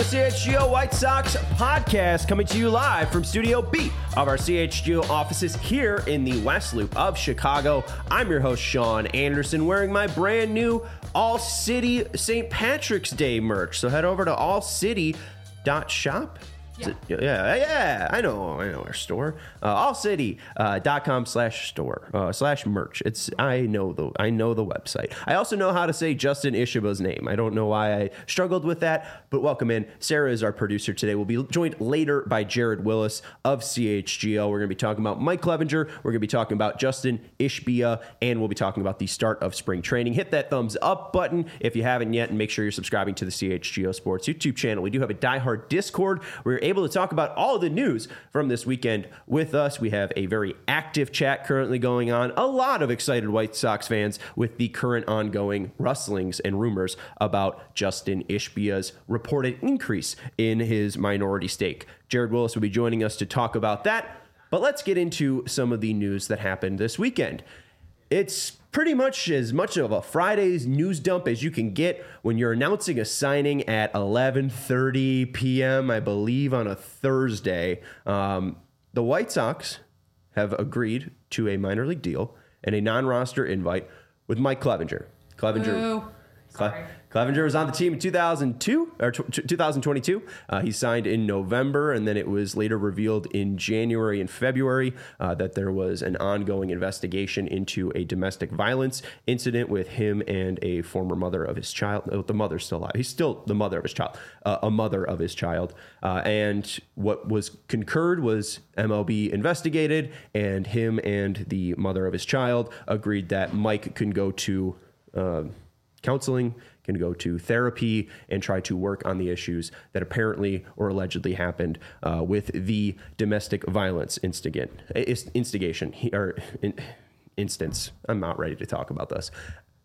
the CHGO White Sox podcast, coming to you live from Studio B of our CHGO offices here in the West Loop of Chicago. I'm your host, Sean Anderson, wearing my brand new All City St. Patrick's Day merch. So head over to allcity.shop. Yeah, I know our store. allcity.com/store/merch. I know the website. I also know how to say Justin Ishiba's name. I don't know why I struggled with that, but welcome in. Sarah is our producer today. We'll be joined later by Jared Willis of CHGO. We're going to be talking about Mike Clevinger. We're going to be talking about Justin Ishbia, and we'll be talking about the start of spring training. Hit that thumbs up button if you haven't yet, and make sure you're subscribing to the CHGO Sports YouTube channel. We do have a diehard Discord where you're able to talk about all the news from this weekend with us. We have a very active chat currently going on. A lot of excited White Sox fans with the current ongoing rustlings and rumors about Justin Ishbia's reported increase in his minority stake. Jared Willis will be joining us to talk about that. But let's get into some of the news that happened this weekend. It's pretty much as much of a Friday's news dump as you can get when you're announcing a signing at 11:30 p.m., I believe, on a Thursday. The White Sox have agreed to a minor league deal and a non-roster invite with Mike Clevinger. Clevinger was on the team in 2022. He signed in November, and then it was later revealed in January and February that there was an ongoing investigation into a domestic violence incident with him and a former mother of his child. The mother's still alive. He's still the mother of his child, a mother of his child. And what was concurred was MLB investigated, and him and the mother of his child agreed that Mike can go to counseling, can go to therapy, and try to work on the issues that apparently or allegedly happened with the domestic violence instance. I'm not ready to talk about this.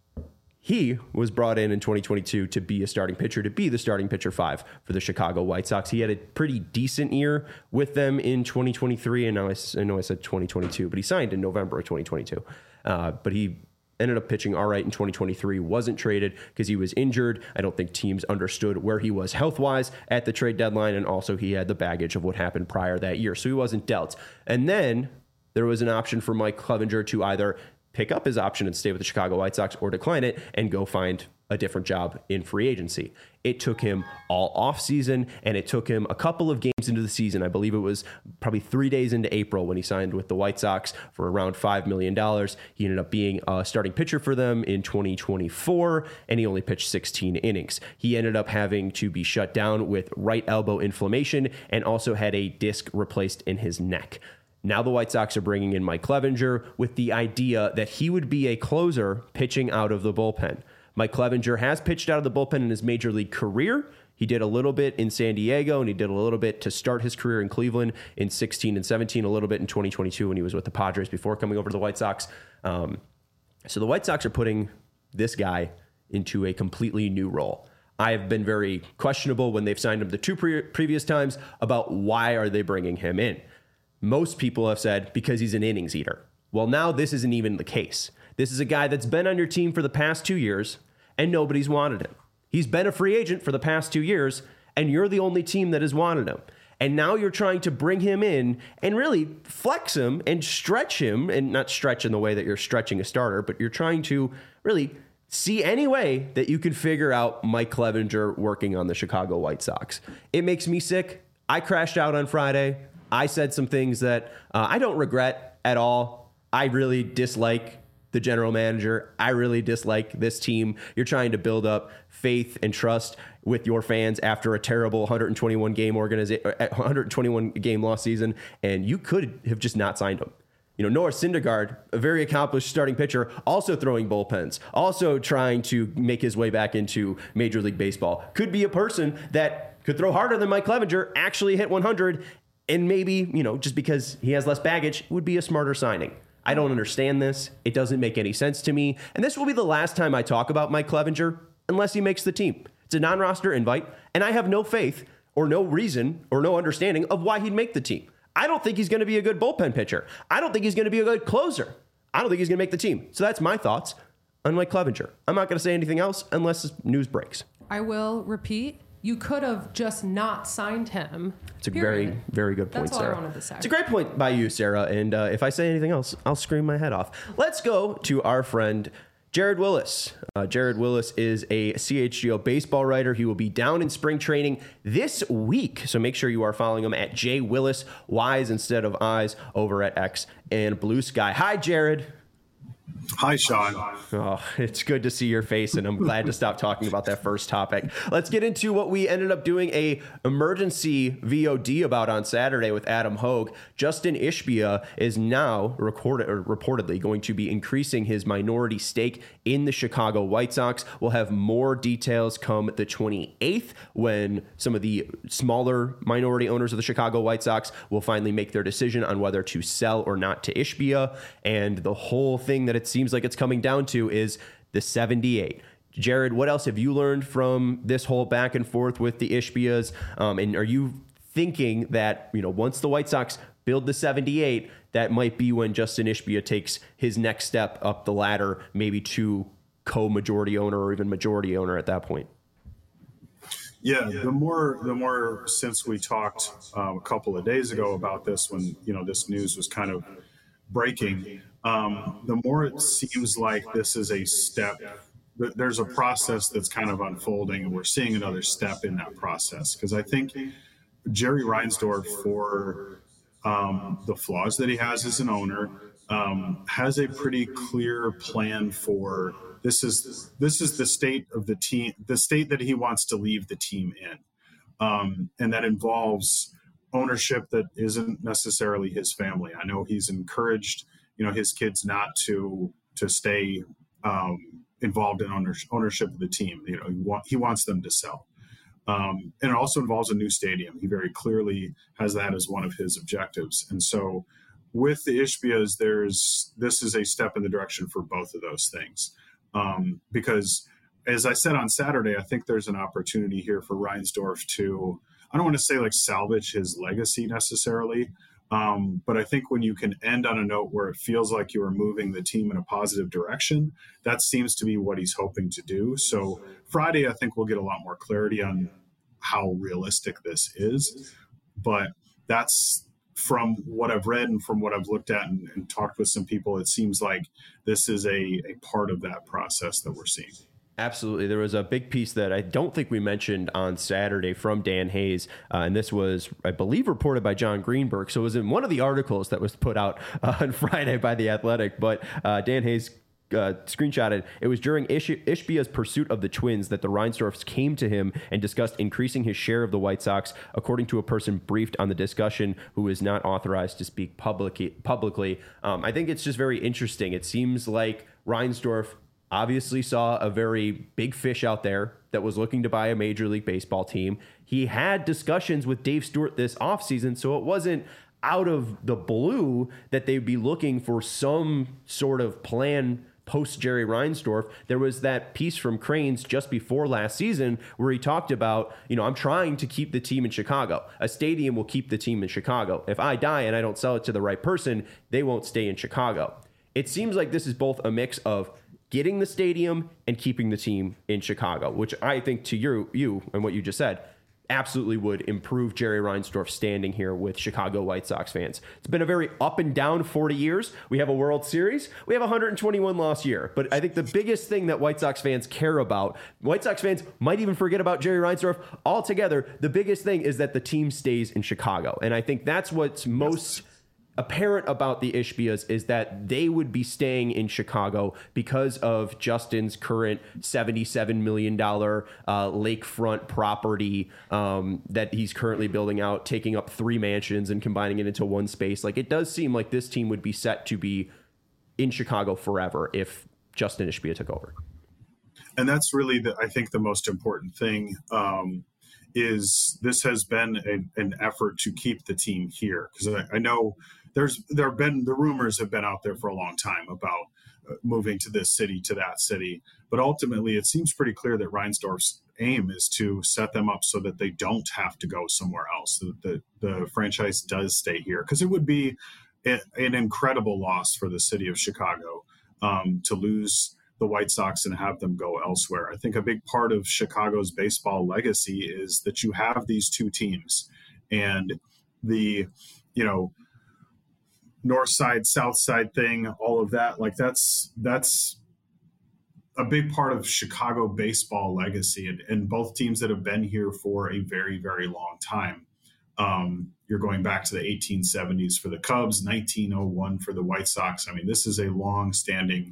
He was brought in 2022 to be a starting pitcher, to be the starting pitcher 5 for the Chicago White Sox. He had a pretty decent year with them in 2023, and now I know I said 2022, but he signed in November of 2022. But he ended up pitching all right in 2023, wasn't traded because he was injured. I don't think teams understood where he was health-wise at the trade deadline, and also he had the baggage of what happened prior that year, so he wasn't dealt. And then there was an option for Mike Clevinger to either pick up his option and stay with the Chicago White Sox or decline it and go find a different job in free agency. It took him all off season, and it took him a couple of games into the season. I believe it was probably 3 days into April when he signed with the White Sox for around $5 million. He ended up being a starting pitcher for them in 2024, and he only pitched 16 innings. He ended up having to be shut down with right elbow inflammation and also had a disc replaced in his neck. Now the White Sox are bringing in Mike Clevinger with the idea that he would be a closer pitching out of the bullpen. Mike Clevinger has pitched out of the bullpen in his major league career. He did a little bit in San Diego, and he did a little bit to start his career in Cleveland in 16 and 17, a little bit in 2022 when he was with the Padres before coming over to the White Sox. So the White Sox are putting this guy into a completely new role. I have been very questionable when they've signed him the two previous times about why are they bringing him in. Most people have said because he's an innings eater. Well, now this isn't even the case. This is a guy that's been on your team for the past 2 years, and nobody's wanted him. He's been a free agent for the past 2 years, and you're the only team that has wanted him. And now you're trying to bring him in and really flex him and stretch him, and not stretch in the way that you're stretching a starter, but you're trying to really see any way that you can figure out Mike Clevinger working on the Chicago White Sox. It makes me sick. I crashed out on Friday. I said some things that I don't regret at all. I really dislike the general manager. I really dislike this team. You're trying to build up faith and trust with your fans after a terrible 121 game loss season, and you could have just not signed him. You know, Noah Syndergaard, a very accomplished starting pitcher, also throwing bullpens, also trying to make his way back into Major League Baseball, could be a person that could throw harder than Mike Clevinger, actually hit 100, and maybe, you know, just because he has less baggage, would be a smarter signing. I don't understand this. It doesn't make any sense to me. And this will be the last time I talk about Mike Clevinger unless he makes the team. It's a non-roster invite, and I have no faith or no reason or no understanding of why he'd make the team. I don't think he's going to be a good bullpen pitcher. I don't think he's going to be a good closer. I don't think he's going to make the team. So that's my thoughts on Mike Clevinger. I'm not going to say anything else unless news breaks. I will repeat you could have just not signed him. It's a very, very good point, That's all Sarah. I wanted to say. It's a great point by you, Sarah. And if I say anything else, I'll scream my head off. Let's go to our friend Jared Willis. Jared Willis is a CHGO baseball writer. He will be down in spring training this week. So make sure you are following him at J Willis, Y's instead of I's, over at X and Blue Sky. Hi, Jared. Hi, Sean. Oh, it's good to see your face, and I'm glad to stop talking about that first topic. Let's get into what we ended up doing a emergency VOD about on Saturday with Adam Hogue. Justin Ishbia is now reportedly going to be increasing his minority stake in the Chicago White Sox. We'll have more details come the 28th when some of the smaller minority owners of the Chicago White Sox will finally make their decision on whether to sell or not to Ishbia. And the whole thing that it seems like it's coming down to is the 78. Jared, what else have you learned from this whole back and forth with the Ishbias? And are you thinking that, once the White Sox build the 78, that might be when Justin Ishbia takes his next step up the ladder, maybe to co-majority owner or even majority owner at that point? Yeah, the more since we talked a couple of days ago about this, when this news was kind of breaking, the more it seems like this is a step. There's a process that's kind of unfolding, and we're seeing another step in that process. Because I think Jerry Reinsdorf, for the flaws that he has as an owner, has a pretty clear plan for this is the state of the team, the state that he wants to leave the team in, and that involves ownership that isn't necessarily his family. I know he's encouraged his kids not to stay involved in ownership of the team. He wants them to sell. And it also involves a new stadium. He very clearly has that as one of his objectives. And so with the Ishbias, this is a step in the direction for both of those things. Because as I said on Saturday, I think there's an opportunity here for Reinsdorf to, I don't want to say salvage his legacy necessarily, but I think when you can end on a note where it feels like you are moving the team in a positive direction, that seems to be what he's hoping to do. So Friday, I think we'll get a lot more clarity on how realistic this is. But that's, from what I've read and from what I've looked at and talked with some people, it seems like this is a part of that process that we're seeing. Absolutely. There was a big piece that I don't think we mentioned on Saturday from Dan Hayes, and this was, I believe, reported by John Greenberg. So it was in one of the articles that was put out on Friday by The Athletic, but Dan Hayes screenshotted. It was during Ishbia's pursuit of the Twins that the Reinsdorfs came to him and discussed increasing his share of the White Sox, according to a person briefed on the discussion who is not authorized to speak publicly. I think it's just very interesting. It seems like Reinsdorf obviously saw a very big fish out there that was looking to buy a Major League Baseball team. He had discussions with Dave Stewart this offseason, so it wasn't out of the blue that they'd be looking for some sort of plan post Jerry Reinsdorf. There was that piece from Cranes just before last season where he talked about, I'm trying to keep the team in Chicago. A stadium will keep the team in Chicago. If I die and I don't sell it to the right person, they won't stay in Chicago. It seems like this is both a mix of getting the stadium and keeping the team in Chicago, which I think to you and what you just said, absolutely would improve Jerry Reinsdorf's standing here with Chicago White Sox fans. It's been a very up and down 40 years. We have a World Series. We have a 121 loss year. But I think the biggest thing that White Sox fans care about, White Sox fans might even forget about Jerry Reinsdorf altogether. The biggest thing is that the team stays in Chicago. And I think that's what's most apparent about the Ishbias is that they would be staying in Chicago because of Justin's current $77 million lakefront property that he's currently building out, taking up 3 mansions and combining it into one space. Like, it does seem like this team would be set to be in Chicago forever if Justin Ishbia took over. And that's really, I think, the most important thing. Is this has been an effort to keep the team here, because I know the rumors have been out there for a long time about moving to this city, to that city, but ultimately it seems pretty clear that Reinsdorf's aim is to set them up so that they don't have to go somewhere else, so that the franchise does stay here, because it would be an incredible loss for the city of Chicago to lose the White Sox and have them go elsewhere. I think a big part of Chicago's baseball legacy is that you have these two teams, and the, north side, south side thing, all of that, like that's a big part of Chicago baseball legacy, and both teams that have been here for a very, very long time. You're going back to the 1870s for the Cubs, 1901 for the White Sox. I mean, this is a long-standing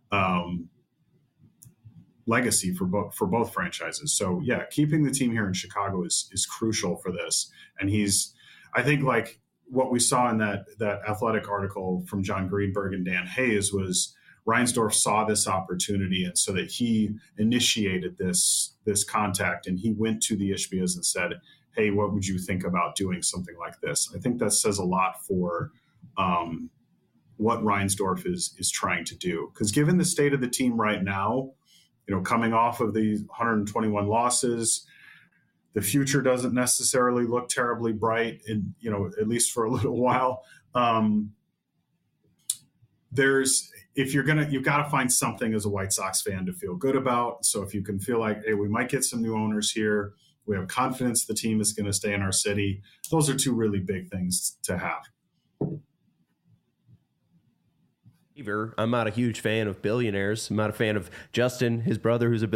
legacy for both franchises. So yeah, keeping the team here in Chicago is crucial for this. And I think like what we saw in that Athletic article from John Greenberg and Dan Hayes was Reinsdorf saw this opportunity, and so that he initiated this contact, and he went to the Ishbias and said, hey, what would you think about doing something like this? I think that says a lot for what Reinsdorf is trying to do. Because given the state of the team right now, coming off of the 121 losses, the future doesn't necessarily look terribly bright, and at least for a little while. You've got to find something as a White Sox fan to feel good about. So if you can feel like, hey, we might get some new owners here, we have confidence the team is going to stay in our city. Those are two really big things to have. I'm not a huge fan of billionaires. I'm not a fan of Justin, his brother, who's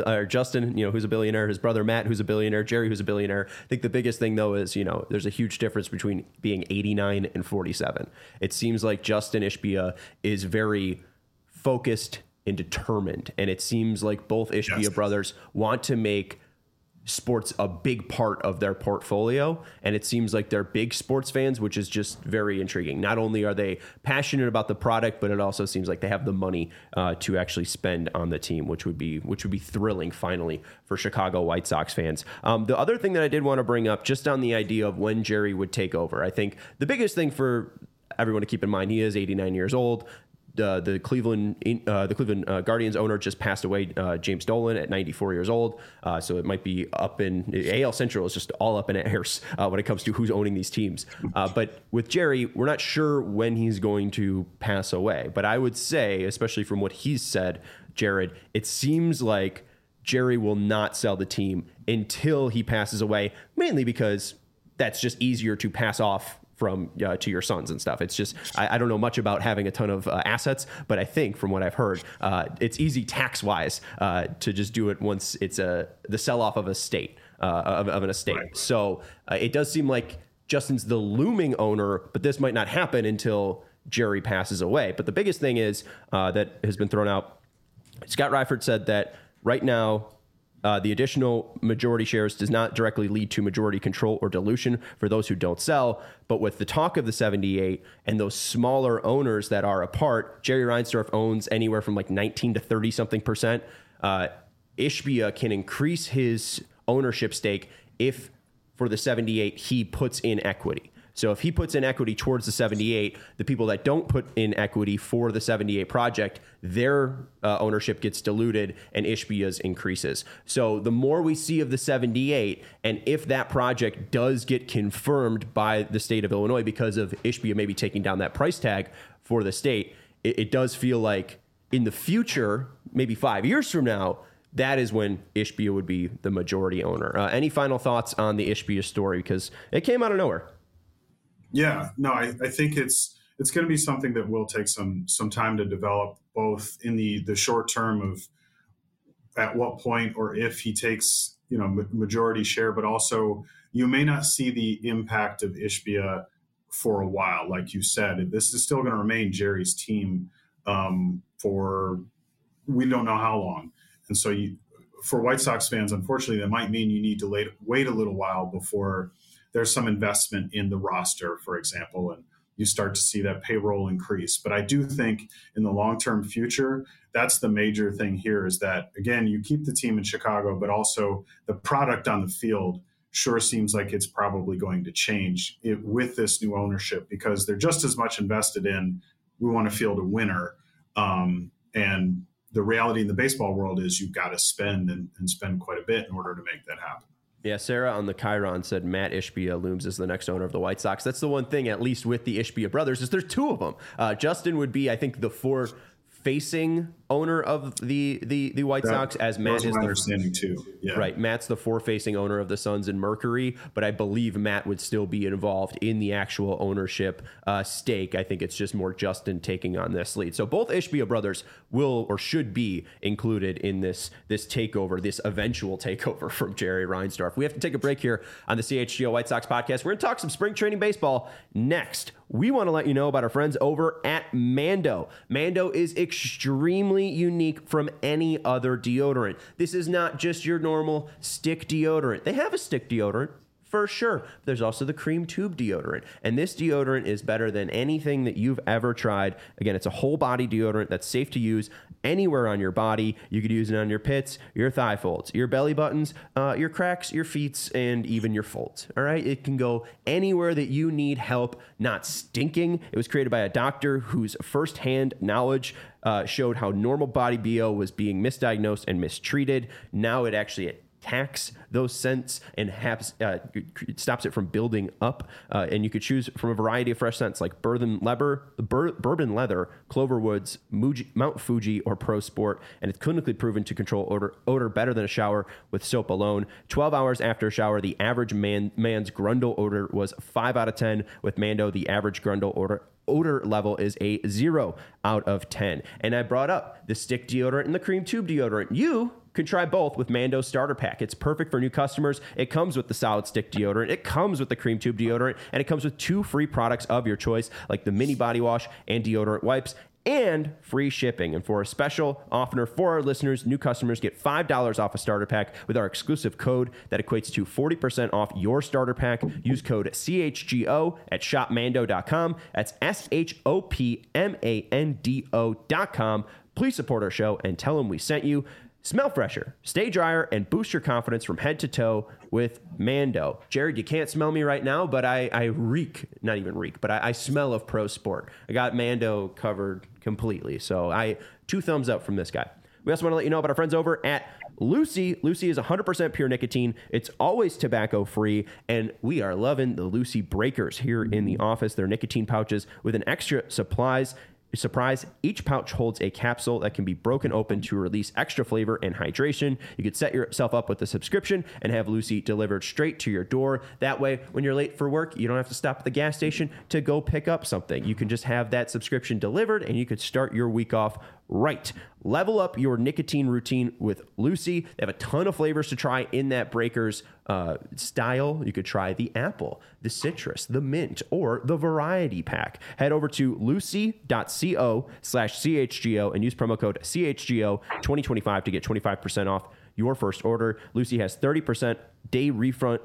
a billionaire, his brother Matt, who's a billionaire, Jerry, who's a billionaire. I think the biggest thing though is, there's a huge difference between being 89 and 47. It seems like Justin Ishbia is very focused and determined, and it seems like both Ishbia brothers want to make sports a big part of their portfolio, and it seems like they're big sports fans, which is just very intriguing. Not only are they passionate about the product, but it also seems like they have the money to actually spend on the team, which would be thrilling finally for Chicago White Sox fans. The other thing that I did want to bring up, just on the idea of when Jerry would take over, I think the biggest thing for everyone to keep in mind, he is 89 years old. The Cleveland Guardians owner just passed away, James Dolan, at 94 years old. So it might be up in AL Central is just all up in airs when it comes to who's owning these teams. But with Jerry, we're not sure when he's going to pass away. But I would say, especially from what he's said, Jared, it seems like Jerry will not sell the team until he passes away, mainly because that's just easier to pass off from to your sons and stuff. It's just, I don't know much about having a ton of assets, but I think from what I've heard, it's easy tax wise to just do it once it's the sell off of a state of an estate. Right. So it does seem like Justin's the looming owner, but this might not happen until Jerry passes away. But the biggest thing is that has been thrown out. Scott Reifert said that right now, the additional majority shares does not directly lead to majority control or dilution for those who don't sell. But with the talk of the 78 and those smaller owners that are apart, Jerry Reinsdorf owns anywhere from like 19 to 30 something percent. Ishbia can increase his ownership stake if for the 78 he puts in equity. So if he puts in equity towards the 78, the people that don't put in equity for the 78 project, their ownership gets diluted and Ishbia's increases. So the more we see of the 78, and if that project does get confirmed by the state of Illinois because of Ishbia maybe taking down that price tag for the state, it does feel like in the future, maybe 5 years from now, that is when Ishbia would be the majority owner. Any final thoughts on the Ishbia story? Because it came out of nowhere. Yeah, no, I think it's going to be something that will take some time to develop, both in the short term of at what point or if he takes majority share, but also you may not see the impact of Ishbia for a while. Like you said, this is still going to remain Jerry's team for we don't know how long. And so for White Sox fans, unfortunately, that might mean you need to wait a little while before there's some investment in the roster, for example, and you start to see that payroll increase. But I do think in the long-term future, that's the major thing here is that, again, you keep the team in Chicago, but also the product on the field sure seems like it's probably going to change with this new ownership because they're just as much invested in we want to field a winner. And the reality in the baseball world is you've got to spend and spend quite a bit in order to make that happen. Yeah, Sarah on the Chiron said Matt Ishbia looms as the next owner of the White Sox. That's the one thing, at least with the Ishbia brothers, is there's two of them. Justin would be, I think, the facing owner of the White Sox, as Matt is my understanding too. Yeah. Right. Matt's the forward-facing owner of the Suns and Mercury, but I believe Matt would still be involved in the actual ownership stake. I think it's just more Justin taking on this lead. So both Ishbia brothers will or should be included in this takeover, this eventual takeover from Jerry Reinsdorf. We have to take a break here on the CHGO White Sox podcast. We're going to talk some spring training baseball next. We want to let you know about our friends over at Mando. Mando is extremely unique from any other deodorant. This is not just your normal stick deodorant. They have a stick deodorant, for sure. There's also the cream tube deodorant. And this deodorant is better than anything that you've ever tried. Again, it's a whole body deodorant that's safe to use anywhere on your body. You could use it on your pits, your thigh folds, your belly buttons, your cracks, your feet, and even your folds. All right? It can go anywhere that you need help not stinking. It was created by a doctor whose firsthand knowledge showed how normal body BO was being misdiagnosed and mistreated. Now it actually attacks those scents and stops it from building up. And you could choose from a variety of fresh scents like bourbon leather, Cloverwoods, Mount Fuji, or Pro Sport. And it's clinically proven to control odor better than a shower with soap alone. 12 hours after a shower, the average man's Grundle odor was 5 out of 10. With Mando, the average Grundle odor level is a 0 out of 10. And I brought up the stick deodorant and the cream tube deodorant. You can try both with Mando's starter pack. It's perfect for new customers. It comes with the solid stick deodorant. It comes with the cream tube deodorant, and it comes with 2 free products of your choice, like the mini body wash and deodorant wipes, and free shipping. And for a special offer for our listeners, new customers get $5 off a starter pack with our exclusive code that equates to 40% off your starter pack. Use code CHGO at shopmando.com. That's SHOPMANDO.com. Please support our show and tell them we sent you. Smell fresher, stay drier, and boost your confidence from head to toe with Mando. Jared, you can't smell me right now, but I reek, not even reek, but I smell of Pro Sport. I got Mando covered completely. So 2 thumbs up from this guy. We also want to let you know about our friends over at Lucy. Lucy is 100% pure nicotine. It's always tobacco free, and we are loving the Lucy breakers here in the office. They're nicotine pouches with an extra surprise. Each pouch holds a capsule that can be broken open to release extra flavor and hydration. You could set yourself up with a subscription and have Lucy delivered straight to your door. That way, when you're late for work, you don't have to stop at the gas station to go pick up something. You can just have that subscription delivered, and you could start your week off right. Level up your nicotine routine with Lucy. They have a ton of flavors to try in that Breakers style. You could try the apple, the citrus, the mint, or the variety pack. Head over to lucy.co/CHGO and use promo code CHGO 2025 to get 25% off your first order. Lucy has 30% day refund,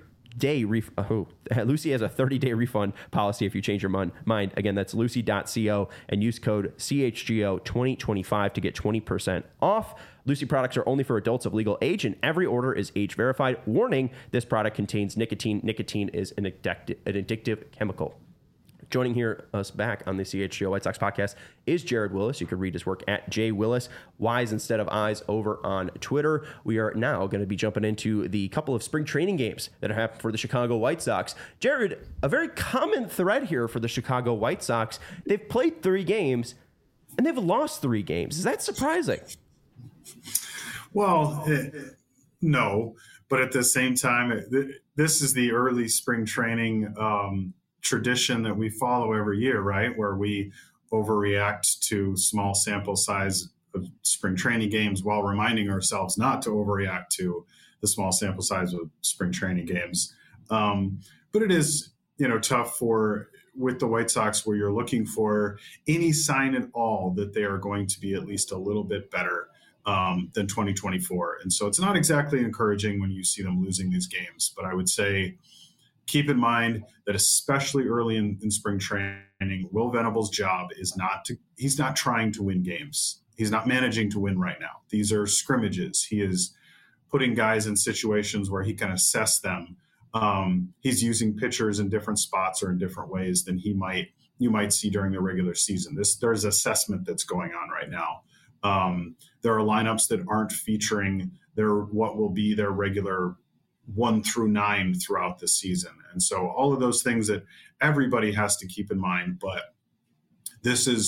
Lucy has a 30-day refund policy if you change your mind. Again, that's lucy.co and use code CHGO 2025 to get 20% off. Lucy products are only for adults of legal age, and every order is age verified. Warning, this product contains nicotine. Nicotine is an addictive chemical. Joining us back on the CHGO White Sox podcast is Jared Willis. You can read his work at J Willis, Y's instead of I's, over on Twitter. We are now going to be jumping into the couple of spring training games that are happening for the Chicago White Sox. Jared, a very common thread here for the Chicago White Sox. They've played 3 games, and they've lost 3 games. Is that surprising? Well, no, but at the same time, this is the early spring training tradition that we follow every year, right? Where we overreact to small sample size of spring training games while reminding ourselves not to overreact to the small sample size of spring training games. But it is, tough with the White Sox, where you're looking for any sign at all that they are going to be at least a little bit better than 2024. And so it's not exactly encouraging when you see them losing these games, but I would say, keep in mind that especially early in spring training, Will Venable's job is he's not trying to win games. He's not managing to win right now. These are scrimmages. He is putting guys in situations where he can assess them. He's using pitchers in different spots or in different ways than you might see during the regular season. There's assessment that's going on right now. There are lineups that aren't featuring what will be their regular 1 through 9 throughout the season. And so all of those things that everybody has to keep in mind, but this is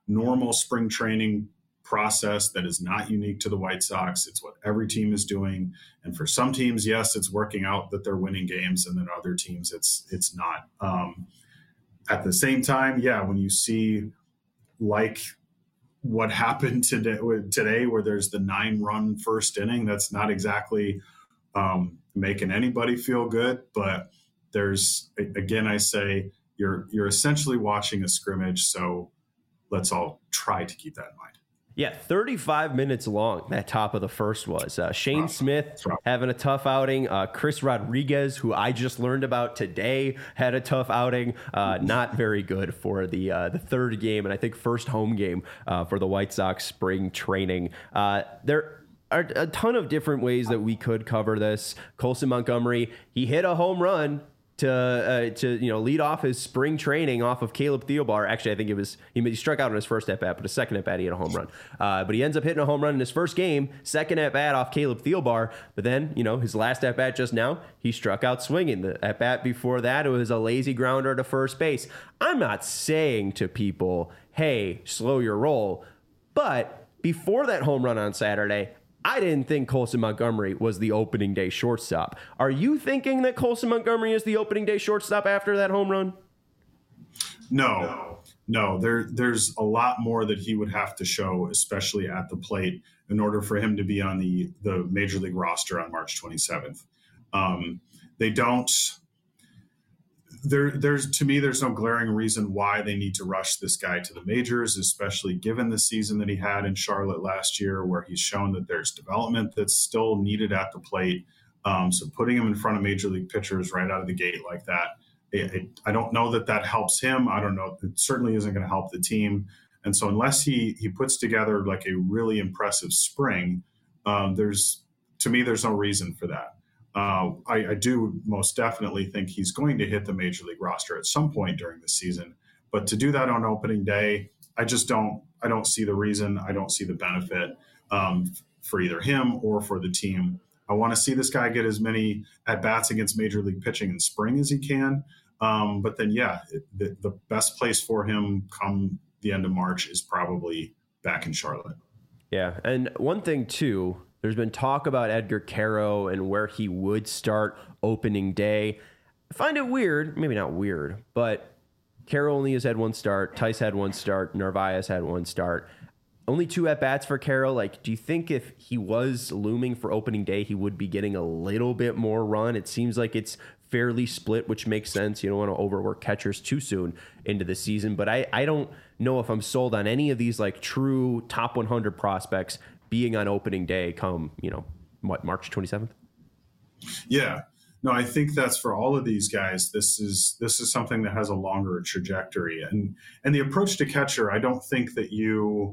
normal spring training process that is not unique to the White Sox. It's what every team is doing. And for some teams, yes, it's working out that they're winning games, and then other teams, it's not. At the same time, yeah, when you see like what happened today where there's the 9-run first inning, that's not exactly making anybody feel good. But there's, again, I say you're essentially watching a scrimmage, so let's all try to keep that in mind. Yeah, 35 minutes long, that top of the first was. Shane Smith having a tough outing. Chris Rodriguez, who I just learned about today, had a tough outing. Not very good for the third game, and I think first home game for the White Sox spring training. There are a ton of different ways that we could cover this. Colson Montgomery, he hit a home run to lead off his spring training off of Caleb Thielbar. Actually, I think he struck out on his first at bat, but his second at bat he hit a home run. But he ends up hitting a home run in his first game, second at bat off Caleb Thielbar. But then his last at bat just now, he struck out swinging. The at bat before that, it was a lazy grounder to first base. I'm not saying to people, hey, slow your roll, but before that home run on Saturday, I didn't think Colson Montgomery was the opening day shortstop. Are you thinking that Colson Montgomery is the opening day shortstop after that home run? No. There's a lot more that he would have to show, especially at the plate, in order for him to be on the Major League roster on March 27th. To me, there's no glaring reason why they need to rush this guy to the majors, especially given the season that he had in Charlotte last year, where he's shown that there's development that's still needed at the plate. So putting him in front of major league pitchers right out of the gate like that, I don't know that helps him. I don't know. It certainly isn't going to help the team. And so unless he puts together like a really impressive spring, there's no reason for that. I do most definitely think he's going to hit the major league roster at some point during the season, but to do that on opening day, I don't see the reason. I don't see the benefit for either him or for the team. I want to see this guy get as many at bats against major league pitching in spring as he can. But then, the best place for him come the end of March is probably back in Charlotte. Yeah. And one thing too, there's been talk about Edgar Quero and where he would start opening day. I find it weird, maybe not weird, but Quero only has had one start. Tice had one start. Narvaez had one start. Only 2 at-bats for Quero. Like, do you think if he was looming for opening day, he would be getting a little bit more run? It seems like it's fairly split, which makes sense. You don't want to overwork catchers too soon into the season. But I don't know if I'm sold on any of these like true top 100 prospects being on opening day come, March 27th? Yeah. No, I think that's for all of these guys. This is something that has a longer trajectory. And the approach to catcher, I don't think that you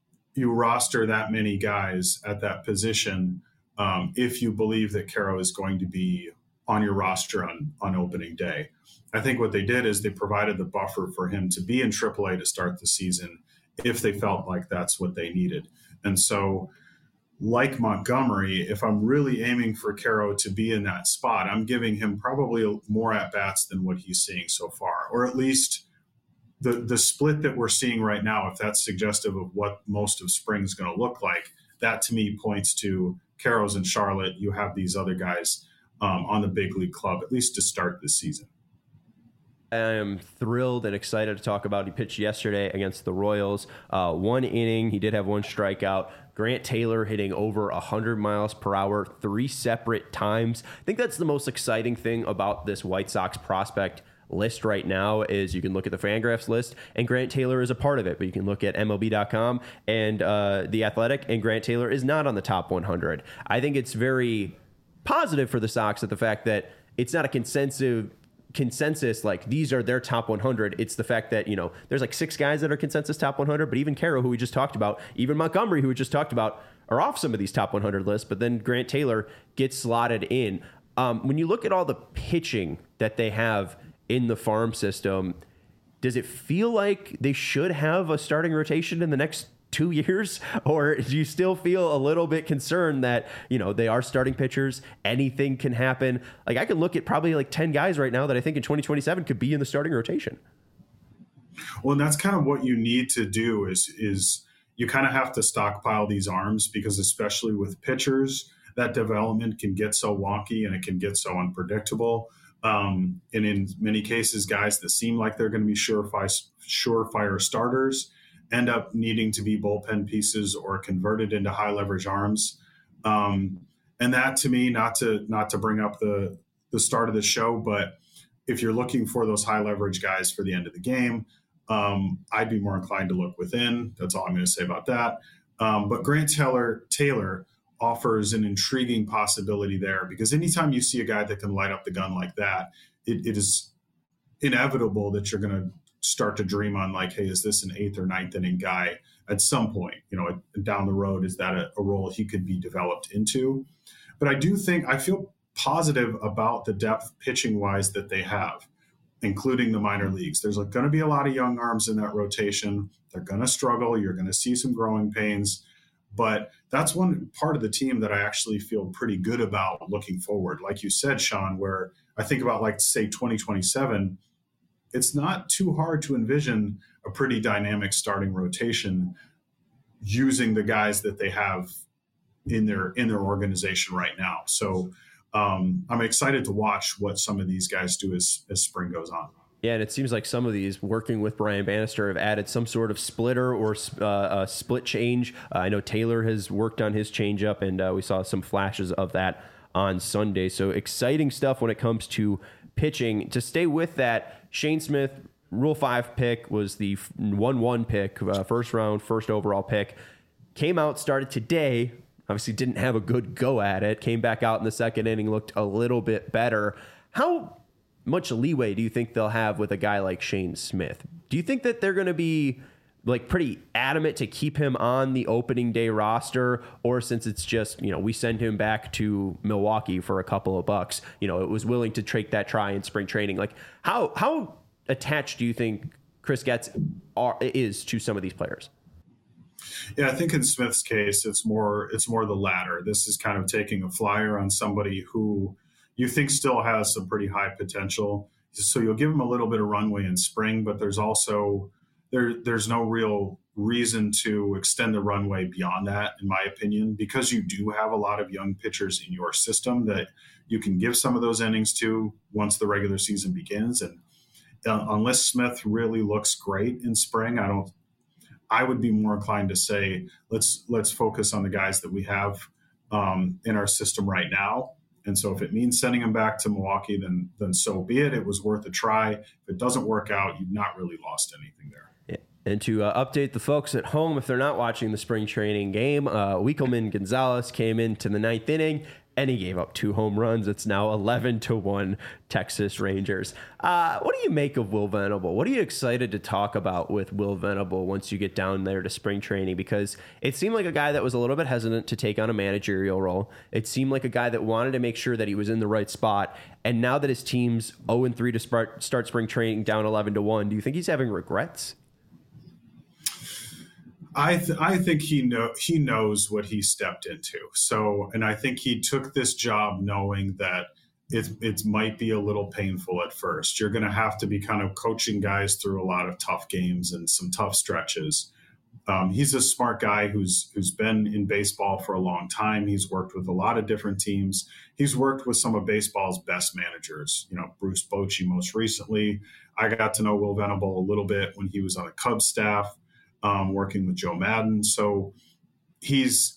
roster that many guys at that position if you believe that Quero is going to be on your roster on opening day. I think what they did is they provided the buffer for him to be in AAA to start the season if they felt like that's what they needed. And so, like Montgomery, if I'm really aiming for Quero to be in that spot, I'm giving him probably more at-bats than what he's seeing so far, or at least the split that we're seeing right now, if that's suggestive of what most of spring is going to look like, that to me points to Quero's in Charlotte. You have these other guys on the big league club, at least to start this season. I am thrilled and excited to talk about. He pitched yesterday against the Royals. 1 inning. He did have 1 strikeout. Grant Taylor hitting over 100 miles per hour 3 separate times. I think that's the most exciting thing about this White Sox prospect list right now is you can look at the Fangraphs list and Grant Taylor is a part of it, but you can look at MLB.com and The Athletic, and Grant Taylor is not on the top 100. I think it's very positive for the Sox that the fact that it's not a consensus like these are their top 100. It's the fact that there's like 6 guys that are consensus top 100, but even Quero, who we just talked about, even Montgomery, who we just talked about, are off some of these top 100 lists, but then Grant Taylor gets slotted in. When you look at all the pitching that they have in the farm system, does it feel like they should have a starting rotation in the next 2 years? Or do you still feel a little bit concerned that, they are starting pitchers, anything can happen? Like I can look at probably like 10 guys right now that I think in 2027 could be in the starting rotation. Well, and that's kind of what you need to do is you kind of have to stockpile these arms, because especially with pitchers, that development can get so wonky and it can get so unpredictable. And in many cases, guys that seem like they're going to be surefire starters end up needing to be bullpen pieces or converted into high leverage arms. And that, to me, not to bring up the start of the show, but if you're looking for those high leverage guys for the end of the game, I'd be more inclined to look within. That's all I'm going to say about that. But Grant Taylor offers an intriguing possibility there, because anytime you see a guy that can light up the gun like that, it is inevitable that you're going to start to dream on, like, hey, is this an 8th or 9th inning guy at some point, down the road? Is that a role he could be developed into? But I feel positive about the depth pitching wise that they have, including the minor leagues. There's going to be a lot of young arms in that rotation. They're going to struggle. You're going to see some growing pains. But that's one part of the team that I actually feel pretty good about looking forward. Like you said, Sean, where I think about, like, say, 2027, it's not too hard to envision a pretty dynamic starting rotation using the guys that they have in their organization right now. So I'm excited to watch what some of these guys do as spring goes on. Yeah, and it seems like some of these, working with Brian Bannister, have added some sort of splitter or a split change. I know Taylor has worked on his changeup, and we saw some flashes of that on Sunday. So exciting stuff when it comes to pitching. To stay with that, Shane Smith, Rule 5 pick, was the 1-1 pick, first round, first overall pick. Came out, started today. Obviously didn't have a good go at it. Came back out in the second inning, looked a little bit better. How much leeway do you think they'll have with a guy like Shane Smith? Do you think that they're going to be pretty adamant to keep him on the opening day roster, or since it's just, we send him back to Milwaukee for a couple of bucks, it was willing to take that try in spring training? Like, how attached do you think Chris Getz is to some of these players? Yeah, I think in Smith's case, it's more the latter. This is kind of taking a flyer on somebody who you think still has some pretty high potential. So you'll give him a little bit of runway in spring, but there's also there's no real reason to extend the runway beyond that, in my opinion, because you do have a lot of young pitchers in your system that you can give some of those innings to once the regular season begins. And unless Smith really looks great in spring, I would be more inclined to say let's focus on the guys that we have in our system right now. And so if it means sending him back to Milwaukee, then so be it. It was worth a try. If it doesn't work out, you've not really lost anything there. Yeah. And to update the folks at home, if they're not watching the spring training game, Wikelman Gonzalez came into the 9th inning, and he gave up 2 home runs. It's now 11-1 Texas Rangers. What do you make of Will Venable? What are you excited to talk about with Will Venable once you get down there to spring training? Because it seemed like a guy that was a little bit hesitant to take on a managerial role. It seemed like a guy that wanted to make sure that he was in the right spot. And now that his team's 0-3 to start spring training down 11-1, do you think he's having regrets? I think he knows what he stepped into. So, and I think he took this job knowing that it might be a little painful at first. You're going to have to be kind of coaching guys through a lot of tough games and some tough stretches. He's a smart guy who's been in baseball for a long time. He's worked with a lot of different teams. He's worked with some of baseball's best managers. Bruce Bochy most recently. I got to know Will Venable a little bit when he was on the Cubs staff. Working with Joe Madden. So he's,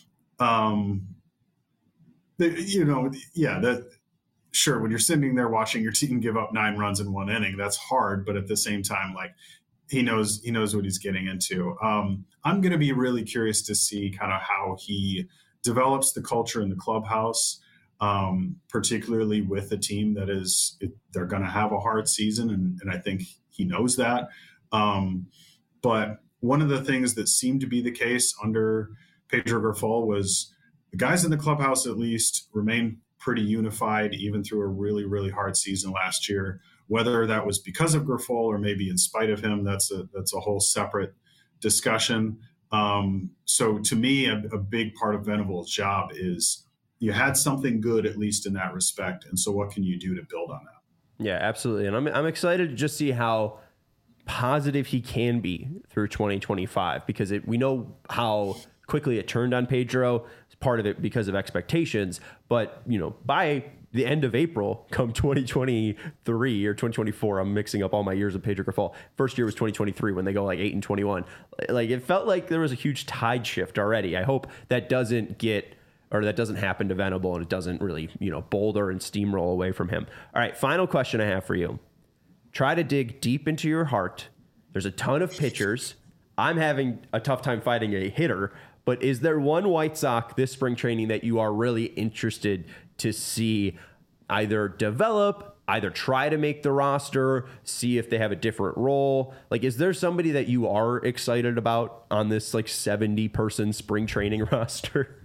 sure, when you're sitting there watching your team give up 9 runs in 1 inning, that's hard. But at the same time, like, he knows what he's getting into. I'm going to be really curious to see kind of how he develops the culture in the clubhouse, particularly with a team that they're going to have a hard season. And I think he knows that. But one of the things that seemed to be the case under Pedro Grifol was the guys in the clubhouse at least remained pretty unified even through a really, really hard season last year. Whether that was because of Grifol or maybe in spite of him, that's a whole separate discussion. So to me, a big part of Venable's job is you had something good, at least in that respect. And so what can you do to build on that? Yeah, absolutely. And I'm excited to just see how positive he can be through 2025, because we know how quickly it turned on Pedro. It's part of it because of expectations, but by the end of April, come 2023 or 2024, I'm mixing up all my years of Pedro Grifol. First year was 2023 when they go like 8-21. Like, it felt like there was a huge tide shift already. I hope that doesn't happen to Venable, and it doesn't really, boulder and steamroll away from him. All right, final question I have for you. Try to dig deep into your heart. There's a ton of pitchers. I'm having a tough time finding a hitter, but is there one White Sox this spring training that you are really interested to see either develop, either try to make the roster, see if they have a different role? Like, is there somebody that you are excited about on this 70-person spring training roster?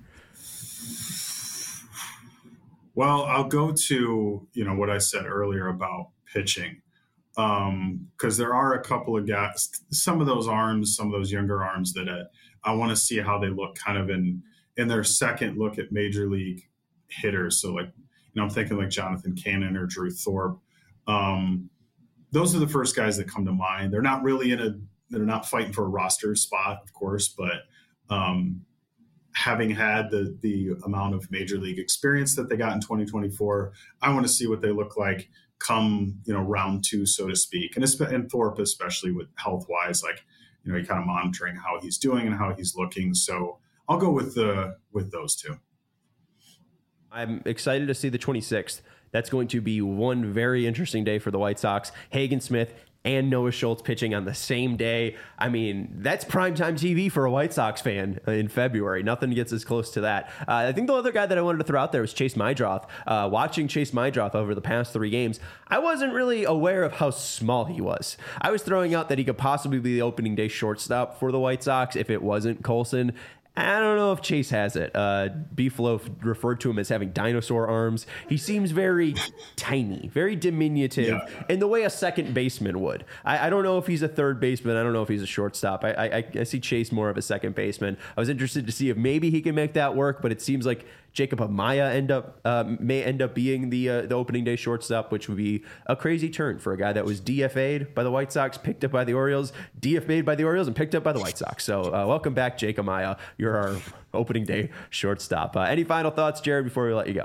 Well, I'll go to, what I said earlier about pitching, because there are a couple of guys, some of those younger arms that I want to see how they look kind of in their second look at major league hitters. So I'm thinking like Jonathan Cannon or Drew Thorpe. Those are the first guys that come to mind. They're not really they're not fighting for a roster spot, of course, but having had the amount of major league experience that they got in 2024, I want to see what they look like come, round two, so to speak. And Thorpe, especially with health wise, you're kind of monitoring how he's doing and how he's looking. So I'll go with those two. I'm excited to see the 26th. That's going to be one very interesting day for the White Sox. Hagen Smith and Noah Schultz pitching on the same day. I mean, that's primetime TV for a White Sox fan in February. Nothing gets as close to that. I think the other guy that I wanted to throw out there was Chase Meidroth. Watching Chase Meidroth over the past 3 games, I wasn't really aware of how small he was. I was throwing out that he could possibly be the opening day shortstop for the White Sox if it wasn't Colson. I don't know if Chase has it. Beefloaf referred to him as having dinosaur arms. He seems very tiny, very diminutive in the way a second baseman would. I don't know if he's a third baseman. I don't know if he's a shortstop. I see Chase more of a second baseman. I was interested to see if maybe he can make that work, but it seems like Jacob Amaya may end up being the opening day shortstop, which would be a crazy turn for a guy that was DFA'd by the White Sox, picked up by the Orioles, DFA'd by the Orioles, and picked up by the White Sox. So welcome back, Jake Amaya. You're our opening day shortstop. Any final thoughts, Jared, before we let you go?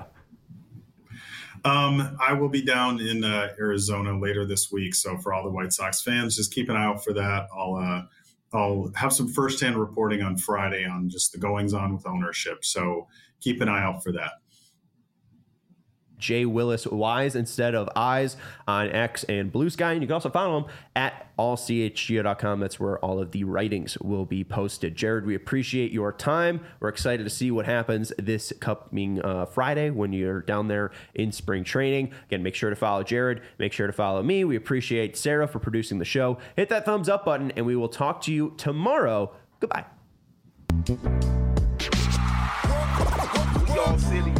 I will be down in Arizona later this week. So for all the White Sox fans, just keep an eye out for that. I'll have some firsthand reporting on Friday on just the goings on with ownership. So keep an eye out for that. Jay Willis Wise instead of Eyes on X and Blue Sky. And you can also follow him at allchgo.com. That's where all of the writings will be posted. Jared, we appreciate your time. We're excited to see what happens this coming Friday when you're down there in spring training. Again, make sure to follow Jared. Make sure to follow me. We appreciate Sarah for producing the show. Hit that thumbs up button, and we will talk to you tomorrow. Goodbye. We all silly.